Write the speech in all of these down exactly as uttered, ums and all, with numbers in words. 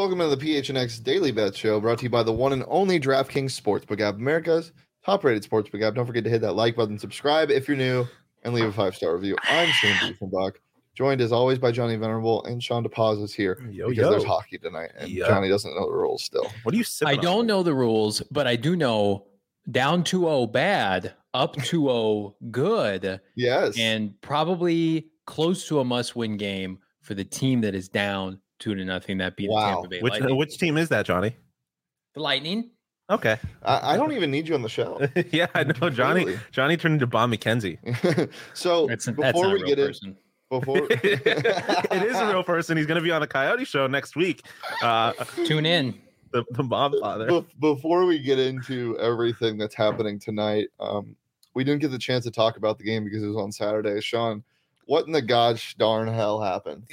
welcome to the P H N X Daily Bet Show, brought to you by the one and only DraftKings Sportsbook app, America's top-rated sportsbook app. Don't forget to hit that like button, subscribe if you're new, and leave a five-star review. I'm Shane Diefenbach, joined as always by Johnny Venerable, and Sean DePaz is here yo, because yo. there's hockey tonight, and yo. Johnny doesn't know the rules still. What are you sipping I don't on? know the rules, but I do know down two oh bad, up two oh good, Yes. and probably close to a must-win game for the team that is down two to nothing. That beat Wow. the Tampa Bay Which Lightning. which team is that, Johnny? The Lightning. Okay. I, I don't even need you on the show. yeah, I know. Johnny Really? Johnny turned into Bob McKenzie. so That's, that's before not we a real get in, person. before it is a real person. He's going to be on the Coyote Show next week. Uh, Tune in. the, the Bob father. Be- before we get into everything that's happening tonight, um, we didn't get the chance to talk about the game because it was on Saturday. Sean, what in the gosh darn hell happened?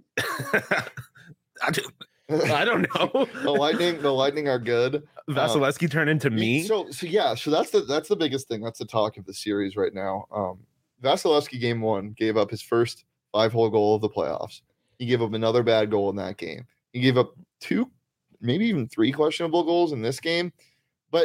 I, don't, I don't know. the Lightning, the Lightning are good. Vasilevsky um, turned into me. So, so yeah, so that's the that's the biggest thing. That's the talk of the series right now. Um, Vasilevsky game one gave up his first five-hole goal of the playoffs. He gave up another bad goal in that game. He gave up two, maybe even three questionable goals in this game. But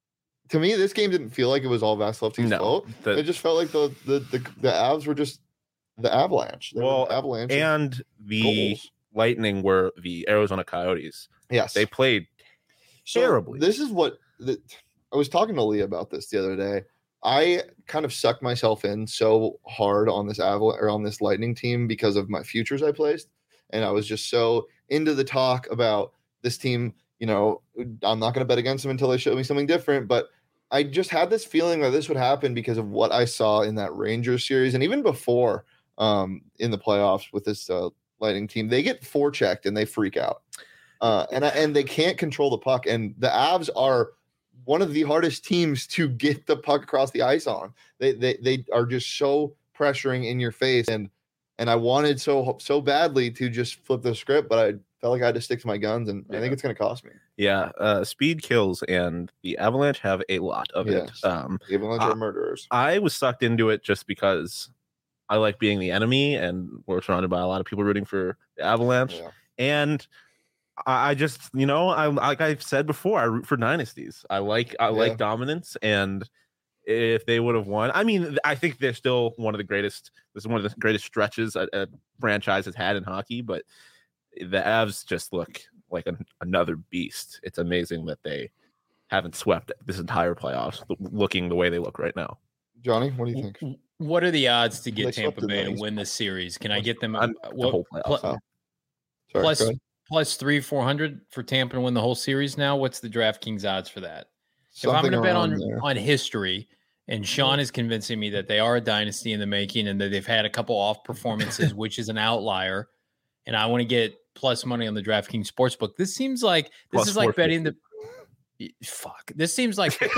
to me, this game didn't feel like it was all Vasilevsky's no, fault. the, it just felt like the the the, the Avs were just the Avalanche. They well, were Avalanche and the goals. Lightning were the Arizona Coyotes. Yes, they played so terribly. This is what the, I was talking to Lee about this the other day. I kind of sucked myself in so hard on this Avalanche or on this Lightning team because of my futures I placed, and I was just so into the talk about this team. You know, I'm not going to bet against them until they show me something different. But I just had this feeling that this would happen because of what I saw in that Rangers series, and even before um, in the playoffs with this uh, Lightning team. They get forechecked and they freak out, uh, and and they can't control the puck. And the Avs are one of the hardest teams to get the puck across the ice on. They they they are just so pressuring in your face, and and I wanted so so badly to just flip the script, but I felt like I had to stick to my guns, and yeah. I think it's going to cost me. Yeah, uh, speed kills, and the Avalanche have a lot of yes. it. Um, the Avalanche uh, are murderers. I was sucked into it just because I like being the enemy, and we're surrounded by a lot of people rooting for the Avalanche. Yeah. And I, I just, you know, I like I've said before, I root for dynasties. I like I yeah. like dominance, and if they would have won, I mean, I think they're still one of the greatest. This is one of the greatest stretches a, a franchise has had in hockey. But the Avs just look like an, another beast. It's amazing that they haven't swept this entire playoffs, looking the way they look right now. Johnny, what do you think? What are the odds to get Tampa Bay to win this series? Can I get them uh, what, the whole playoffs? Oh. Sorry, plus plus three four hundred for Tampa to win the whole series? Now, what's the DraftKings odds for that? Something if I'm going to bet on there. on history, and Sean is convincing me that they are a dynasty in the making, and that they've had a couple off performances, which is an outlier, and I want to get plus money on the DraftKings Sportsbook. This seems like this plus is like betting the. Fuck. This seems like the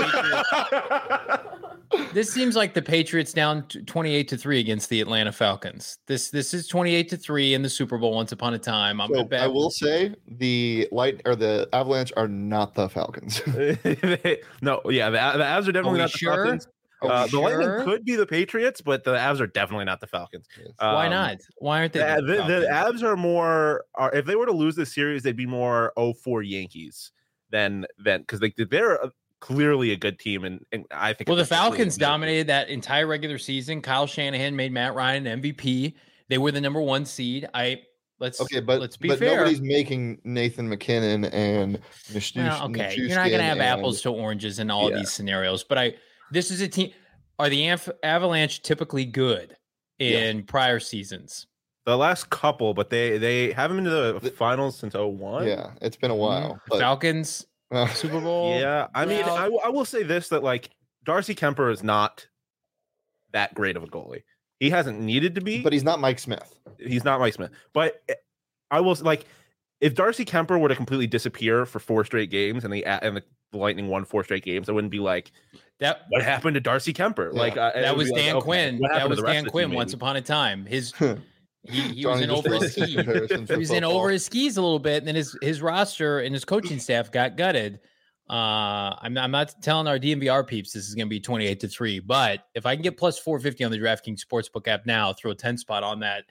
Patriots, this seems like the Patriots down twenty-eight to three against the Atlanta Falcons. This this is twenty-eight to three in the Super Bowl once upon a time. I'm so bet. I will say the light or the Avalanche are not the Falcons. no, yeah, the, the Avs are definitely not the sure? Falcons. Uh, the sure? Lightning could be the Patriots, but the Avs are definitely not the Falcons. Yes. Um, Why not? Why aren't they? The, the, the, the Avs are more. Are, if they were to lose this series, they'd be more oh four Yankees. Then, then, because they they're a, clearly a good team, and, and I think well, the Falcons dominated that entire regular season. Kyle Shanahan made Matt Ryan an M V P. They were the number one seed. I let's okay, but let's be but fair. Nobody's making Nathan McKinnon and Nish- well, okay. You're not going to have and, apples to oranges in all yeah. of these scenarios. But I this is a team. Are the Av- Avalanche typically good in yes. prior seasons? The last couple, but they they haven't been to the, the finals since oh one. Yeah, it's been a while. Mm-hmm. But, Falcons, uh, Super Bowl. Yeah, I mean, well, I, w- I will say this, that like Darcy Kemper is not that great of a goalie. He hasn't needed to be. But he's not Mike Smith. He's not Mike Smith. But I will, like, if Darcy Kemper were to completely disappear for four straight games and the, and the Lightning won four straight games, I wouldn't be like, that. what happened to Darcy Kemper? Yeah. Like uh, That was Dan like, Quinn. Okay, that was Dan Quinn once upon a time. His... He, he was in over his skis. He was in over his skis a little bit, and then his his roster and his coaching staff got gutted. Uh, I'm not, I'm not telling our D M V R peeps this is going to be twenty-eight to three, but if I can get plus four fifty on the DraftKings Sportsbook app now, throw a ten spot on that,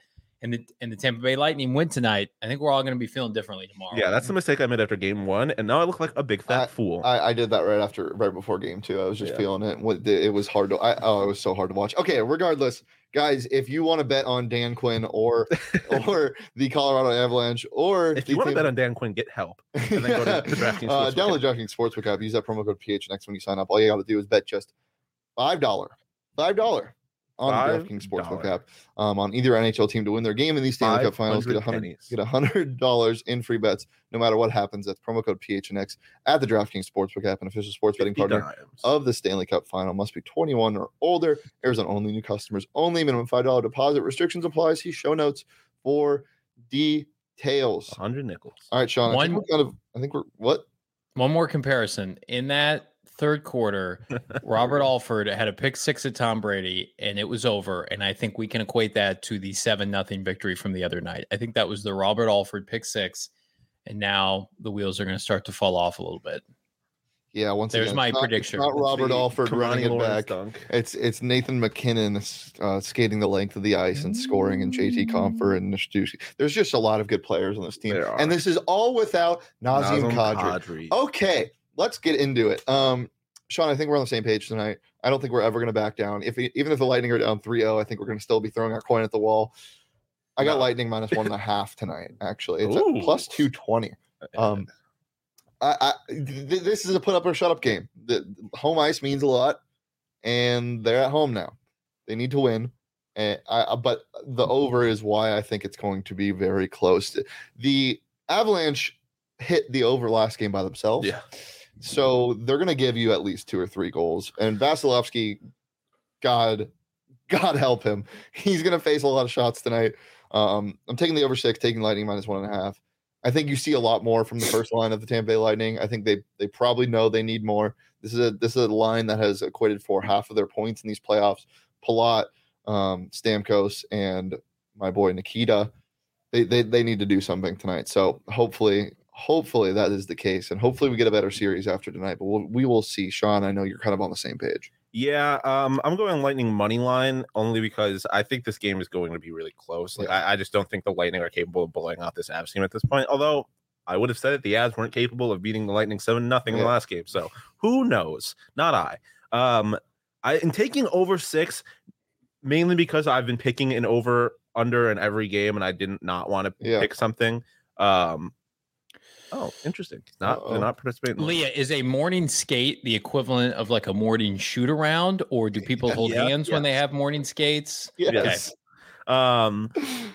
and the and the Tampa Bay Lightning win tonight, I think we're all going to be feeling differently tomorrow. Yeah, that's the mistake I made after game one, and now I look like a big fat I, fool. I, I did that right after, right before game two. I was just yeah. feeling it. It was hard to. I, oh, it was so hard to watch. Okay, regardless, guys, if you want to bet on Dan Quinn or or the Colorado Avalanche, or if you want to bet on Dan Quinn, get help. And then go to the DraftKings. uh, download DraftKings Sportsbook app. Use that promo code P H N X when you sign up. All you got to do is bet just five dollars. Five dollars. On the DraftKings Sportsbook app, um, on either N H L team to win their game in these Stanley Cup Finals, get a hundred get a hundred dollars in free bets no matter what happens. That's promo code P H N X at the DraftKings Sportsbook app, an official sports betting partner dimes. of the Stanley Cup Final. Must be twenty-one or older. Arizona only. New customers only. Minimum five dollar deposit. Restrictions apply. See show notes for details. A hundred nickels. All right, Sean. One, I think we're kind of. I think we're what? One more comparison in that. Third quarter, Robert Alford had a pick six at Tom Brady, and it was over. And I think we can equate that to the seven nothing victory from the other night. I think that was the Robert Alford pick six, and now the wheels are going to start to fall off a little bit. Yeah, once there's again, my it's not, prediction. It's not Robert it's Alford running it back. Dunk. It's it's Nathan McKinnon uh, skating the length of the ice and scoring, and J T Compher and Nishtuski. There's just a lot of good players on this team, and this is all without Nazem, Nazem Kadri. Kadri. Okay. Let's get into it. Um, Sean, I think we're on the same page tonight. I don't think we're ever going to back down. If we, even if the Lightning are down three oh, I think we're going to still be throwing our coin at the wall. I got no. Lightning minus one and a half tonight. Actually, it's Ooh. at plus two twenty. Um, I, I th- this is a put up or shut up game. The home ice means a lot, and they're at home now. They need to win. And I, but the over is why I think it's going to be very close. The Avalanche hit the over last game by themselves. Yeah. So they're going to give you at least two or three goals. And Vasilevsky, God, God help him. He's going to face a lot of shots tonight. Um, I'm taking the over six, taking Lightning minus one and a half. I think you see a lot more from the first line of the Tampa Bay Lightning. I think they they probably know they need more. This is a this is a line that has equated for half of their points in these playoffs. Palat, um, Stamkos, and my boy Nikita. They, they they need to do something tonight. So hopefully. Hopefully that is the case, and hopefully we get a better series after tonight. But we'll, we will see. Sean, I know you're kind of on the same page. Yeah, um, I'm going Lightning money line only because I think this game is going to be really close. Like, yeah. I, I just don't think the Lightning are capable of blowing out this Avs team at this point. Although I would have said it, the Avs weren't capable of beating the Lightning seven nothing yeah. in the last game. So who knows? Not I. Um, I am taking over six mainly because I've been picking an over under in every game, and I didn't not want to yeah. pick something. Um, Oh, interesting. Not they're not participating. Leah, is a morning skate the equivalent of like a morning shoot around, or do people hold yeah, hands yes. when they have morning skates? Yes. Okay. Um,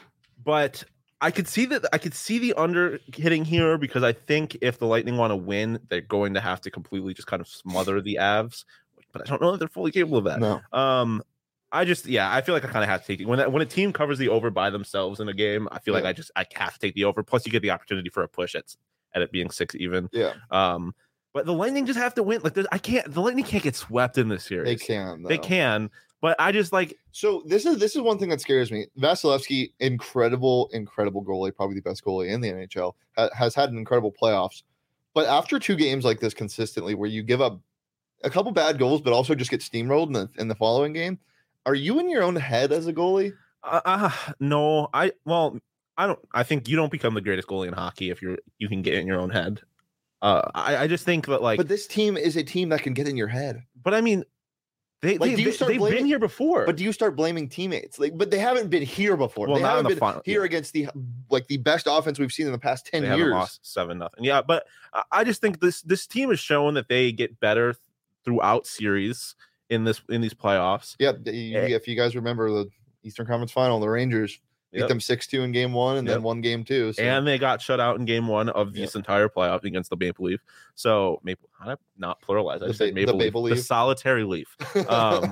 but I could see that I could see the under hitting here because I think if the Lightning want to win, they're going to have to completely just kind of smother the Avs. But I don't know if they're fully capable of that. No. Um, I just yeah, I feel like I kind of have to take it when when a team covers the over by themselves in a game. I feel yeah. like I just I have to take the over. Plus, you get the opportunity for a push at at it being six even. Yeah. Um, but the Lightning just have to win. Like I can't. The Lightning can't get swept in this series. They can. Though. They can. But I just like. So this is this is one thing that scares me. Vasilevsky, incredible, incredible goalie, probably the best goalie in the N H L, ha- has had an incredible playoffs. But after two games like this consistently, where you give up a couple bad goals, but also just get steamrolled in the in the following game, are you in your own head as a goalie? Uh, uh no, I well. I don't. I think you don't become the greatest goalie in hockey if you're you can get in your own head. Uh, I, I just think that like. But this team is a team that can get in your head. But I mean, they like, they, they, they've blaming, been here before. But do you start blaming teammates? Like, but they haven't been here before. Well, they haven't the been final, here yeah. against the like the best offense we've seen in the past ten they years. Haven't lost seven nothing. Yeah, but I just think this this team has shown that they get better throughout series in this in these playoffs. Yeah, if you guys remember the Eastern Conference Final, the Rangers. Beat yep. them six two in game one and yep. then one game two. So. And they got shut out in game one of this yep. entire playoff against the Maple Leaf. So, Maple, how did I not pluralize? I just said Maple, Maple Leaf, Leaf, the solitary Leaf. Um,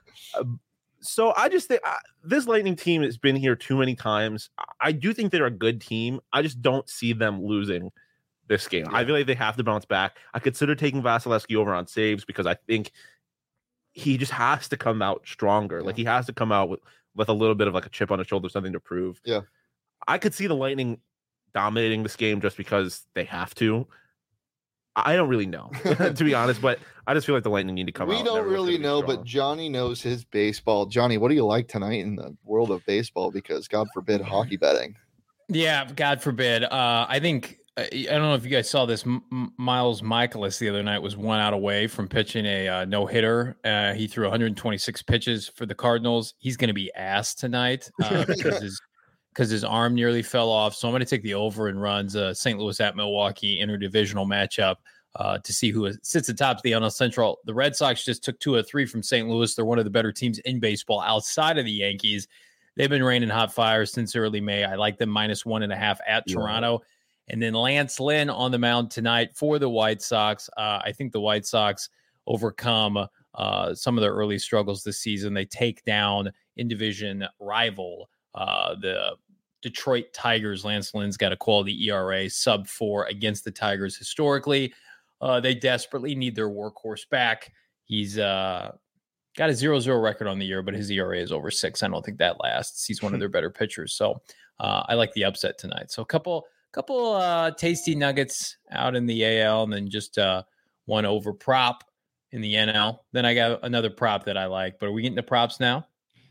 so, I just think uh, this Lightning team has been here too many times. I do think they're a good team. I just don't see them losing this game. Yeah. I feel like they have to bounce back. I consider taking Vasilevsky over on saves because I think he just has to come out stronger. Yeah. Like, he has to come out with. with a little bit of like a chip on his shoulder, something to prove. Yeah. I could see the Lightning dominating this game just because they have to. I don't really know, to be honest, but I just feel like the Lightning need to come we out. We don't really know, but Johnny knows his baseball. Johnny, what do you like tonight in the world of baseball? Because God forbid hockey betting. Yeah, God forbid. Uh, I think I don't know if you guys saw this. M- Miles Michaelis the other night was one out away from pitching a uh, no hitter. Uh, he threw one hundred twenty-six pitches for the Cardinals. He's going to be ass tonight uh, because his because his arm nearly fell off. So I'm going to take the over and runs uh, Saint Louis at Milwaukee interdivisional matchup uh, to see who sits atop the N L Central. The Red Sox just took two of three from Saint Louis. They're one of the better teams in baseball outside of the Yankees. They've been raining hot fire since early May. I like them minus one and a half at yeah. Toronto. And then Lance Lynn on the mound tonight for the White Sox. Uh, I think the White Sox overcome uh, some of their early struggles this season. They take down in-division rival, uh, the Detroit Tigers. Lance Lynn's got a quality E R A, sub four against the Tigers historically. Uh, they desperately need their workhorse back. He's uh, got a zero zero record on the year, but his E R A is over six. I don't think that lasts. He's one of their better pitchers. So uh, I like the upset tonight. So a couple... Couple uh, tasty nuggets out in the A L, and then just uh, one over prop in the N L. Then I got another prop that I like. But are we getting the props now?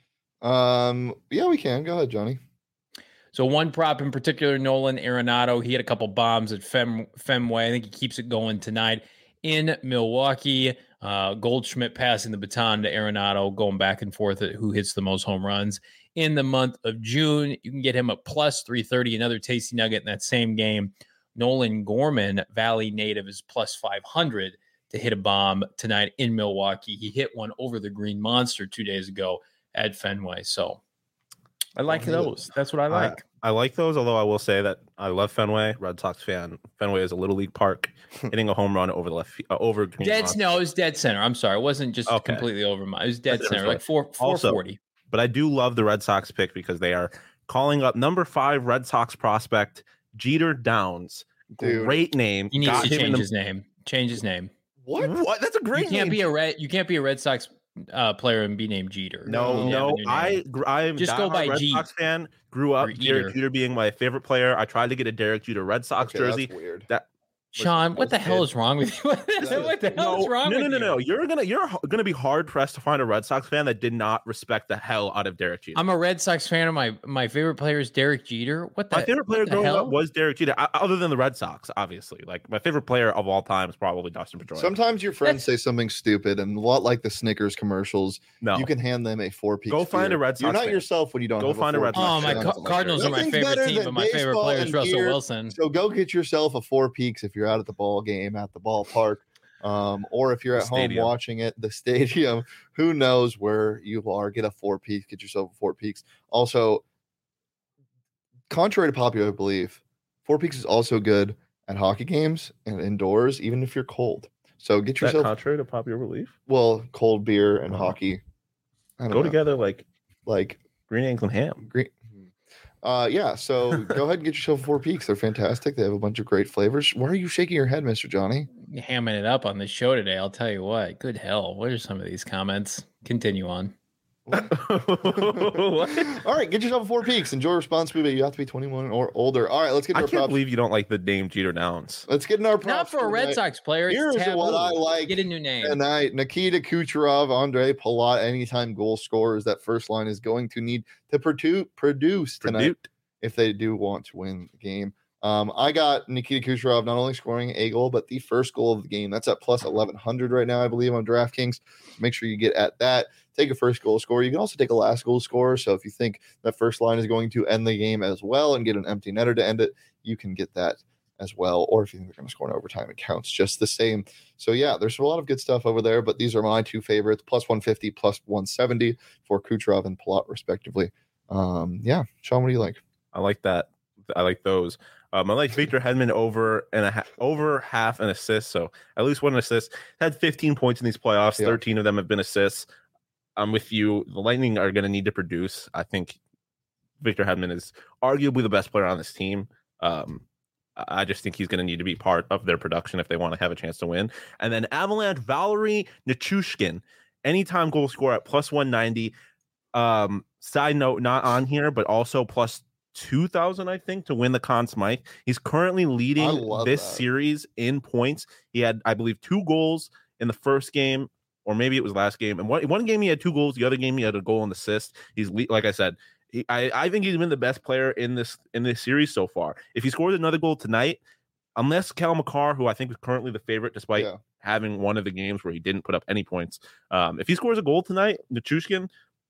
Um, yeah, we can. Go ahead, Johnny. So one prop in particular, Nolan Arenado. He had a couple bombs at Fem, Fenway. I think he keeps it going tonight in Milwaukee. Uh, Goldschmidt passing the baton to Arenado, going back and forth at who hits the most home runs. In the month of June, you can get him at plus three thirty, another tasty nugget in that same game. Nolan Gorman, Valley native, is plus five hundred to hit a bomb tonight in Milwaukee. He hit one over the Green Monster two days ago at Fenway. So I like those. That's what I like. I, I like those, although I will say that I love Fenway. Red Sox fan. Fenway is a little league park. Hitting a home run over the left, uh, over Green dead. Monster. No, it was dead center. I'm sorry. It wasn't just okay. completely over my. It was dead That's center, like four, four forty. Also, but I do love the Red Sox pick because they are calling up number five Red Sox prospect Jeter Downs. Dude. Great name. He needs Got to change the... his name. Change his name. What? What? That's a great you can't name. Be a red, you can't be a Red Sox uh, player and be named Jeter. No, no. I I'm just go by Red G. Sox fan. Grew up Derek Jeter being my favorite player. I tried to get a Derek Jeter Red Sox okay, jersey. That's weird. That Sean, what the hell is wrong with you? what the hell no, is wrong no, with no, you? No, no, no. You're gonna you're gonna be hard pressed to find a Red Sox fan that did not respect the hell out of Derek Jeter. I'm a Red Sox fan, and my my favorite player is Derek Jeter. What the my favorite player growing hell? up was Derek Jeter, I, other than the Red Sox, obviously. Like my favorite player of all time is probably Dustin Pedroia. Sometimes your friends say something stupid, and a lot like the Snickers commercials. No, you can hand them a four piece. Go find beer. a Red Sox. You're not fan. yourself when you don't go have find a, a Red Sox. Oh, my fan. ca- Cardinals are my favorite team, but my favorite player is Russell beer, Wilson. So go get yourself a Four Peaks if you're out at the ball game at the ballpark. Um, or if you're at home watching it, the stadium, who knows where you are, get a Four Peaks, get yourself a Four Peaks. Also, contrary to popular belief, Four Peaks is also good at hockey games and indoors, even if you're cold. So get yourself. Contrary to popular belief? Well, cold beer and uh-huh. hockey go know. together like like green eggs and ham. Green. Uh, yeah, so go ahead and get yourself Four Peaks. They're fantastic. They have a bunch of great flavors. Why are you shaking your head, Mister Johnny? Hamming it up on the show today. I'll tell you what. Good hell. What are some of these comments? Continue on. All right, get yourself a Four Peaks. Enjoy responsibly, but you have to be twenty-one or older. All right, let's get. I our can't props. believe you don't like the name Jeter Downs. Let's get in our props. Not for a Red Sox player. It's Here's taboo. what I like. Get a new name tonight. Nikita Kucherov, Andre Palat, anytime goal scorers. That first line is going to need to produce produce tonight Produce. if they do want to win the game. Um, I got Nikita Kucherov not only scoring a goal, but the first goal of the game. That's at plus eleven hundred right now, I believe, on DraftKings. Make sure you get at that. Take a first goal scorer. You can also take a last goal scorer. So if you think that first line is going to end the game as well and get an empty netter to end it, you can get that as well. Or if you think they're going to score in overtime, it counts just the same. So yeah, there's a lot of good stuff over there, but these are my two favorites, plus one fifty, plus one seventy for Kucherov and Palat, respectively. Um, yeah, Sean, what do you like? I like that. I like those. Um, I like Victor Hedman over and a ha- over half an assist, so at least one assist. Had fifteen points in these playoffs. Yeah. thirteen of them have been assists. I'm with you. The Lightning are going to need to produce. I think Victor Hedman is arguably the best player on this team. Um, I just think he's going to need to be part of their production if they want to have a chance to win. And then Avalanche, Valerie Nichushkin, anytime goal scorer at plus one ninety. Um, side note, not on here, but also plus two thousand, I think, to win the Conn Smythe. He's currently leading this that. series in points. He had, I believe, two goals in the first game, or maybe it was last game. And one, one game he had two goals. The other game he had a goal and assist. He's like I said, he, I, I think he's been the best player in this in this series so far. If he scores another goal tonight, unless Cal McCarr, who I think is currently the favorite, despite yeah. having one of the games where he didn't put up any points, um, if he scores a goal tonight, Nichushkin,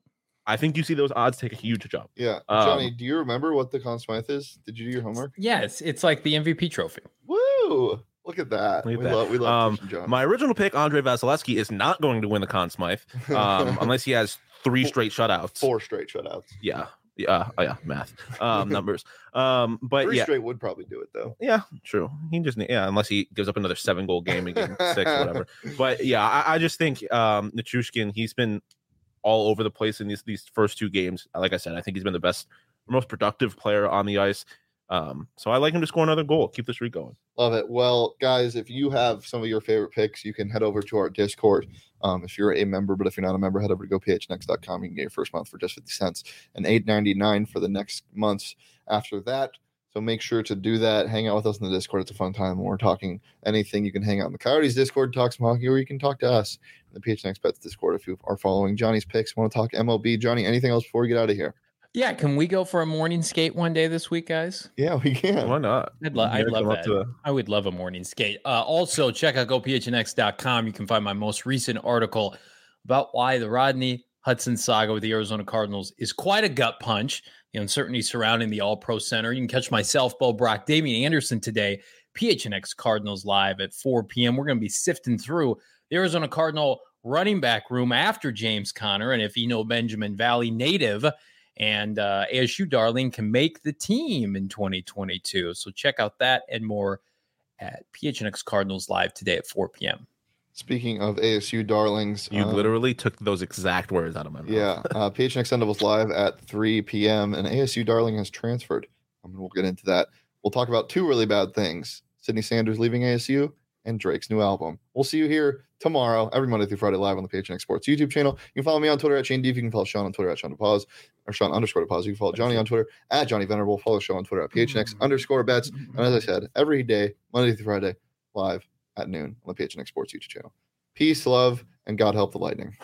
I think you see those odds take a huge jump. Yeah. Johnny, um, do you remember what the Conn Smythe is? Did you do your homework? Yes. It's like the M V P trophy. Woo! Look at that. Look at we, that. Love, we love um, Johnny. My original pick, Andre Vasilevsky, is not going to win the Conn Smythe um, unless he has three four, straight shutouts. Four straight shutouts. Yeah. Yeah. Oh, yeah. Math. Um, numbers. Um, but three yeah. straight would probably do it, though. Yeah. True. He just, yeah, unless he gives up another seven goal game in game six or whatever. But yeah, I, I just think um, Nichushkin, he's been all over the place in these these first two games. Like I said, I think he's been the best, most productive player on the ice. Um, so I like him to score another goal. Keep the streak going. Love it. Well, guys, if you have some of your favorite picks, you can head over to our Discord. Um, if you're a member, but if you're not a member, head over to go p h n x dot com. You can get your first month for just fifty cents and eight ninety-nine for the next months after that. So make sure to do that. Hang out with us in the Discord. It's a fun time when we're talking anything. You can hang out in the Coyotes Discord, talk some hockey, or you can talk to us in the P H N X Bets Discord if you are following Johnny's picks. Want to talk M L B? Johnny, anything else before we get out of here? Yeah, can we go for a morning skate one day this week, guys? Yeah, we can. Why not? I'd, lo- I'd love that. A- I would love a morning skate. Uh, also, check out go p h n x dot com. You can find my most recent article about why the Rodney Hudson saga with the Arizona Cardinals is quite a gut punch. The uncertainty surrounding the All-Pro Center. You can catch myself, Bo Brock, Damian Anderson today, P H N X Cardinals Live at four p.m. We're going to be sifting through the Arizona Cardinal running back room after James Conner, and if you know Benjamin Valley native and uh, A S U darling can make the team in twenty twenty-two. So check out that and more at P H N X Cardinals Live today at four p.m. Speaking of A S U darlings, you um, literally took those exact words out of my mouth. Yeah, uh, P H N X Sun Devils Live at three p.m. and A S U darling has transferred. I mean, we'll get into that. We'll talk about two really bad things: Sydney Sanders leaving A S U and Drake's new album. We'll see you here tomorrow, every Monday through Friday, live on the P H N X Sports YouTube channel. You can follow me on Twitter at Shane Deef. You can follow Sean on Twitter at Sean DePause, or Sean underscore DePause. You can follow Johnny on Twitter at Johnny Venerable. Follow Sean on Twitter at P H N X underscore bets. And as I said, every day, Monday through Friday, live at noon on the P H N X Sports YouTube channel. Peace, love, and God help the Lightning.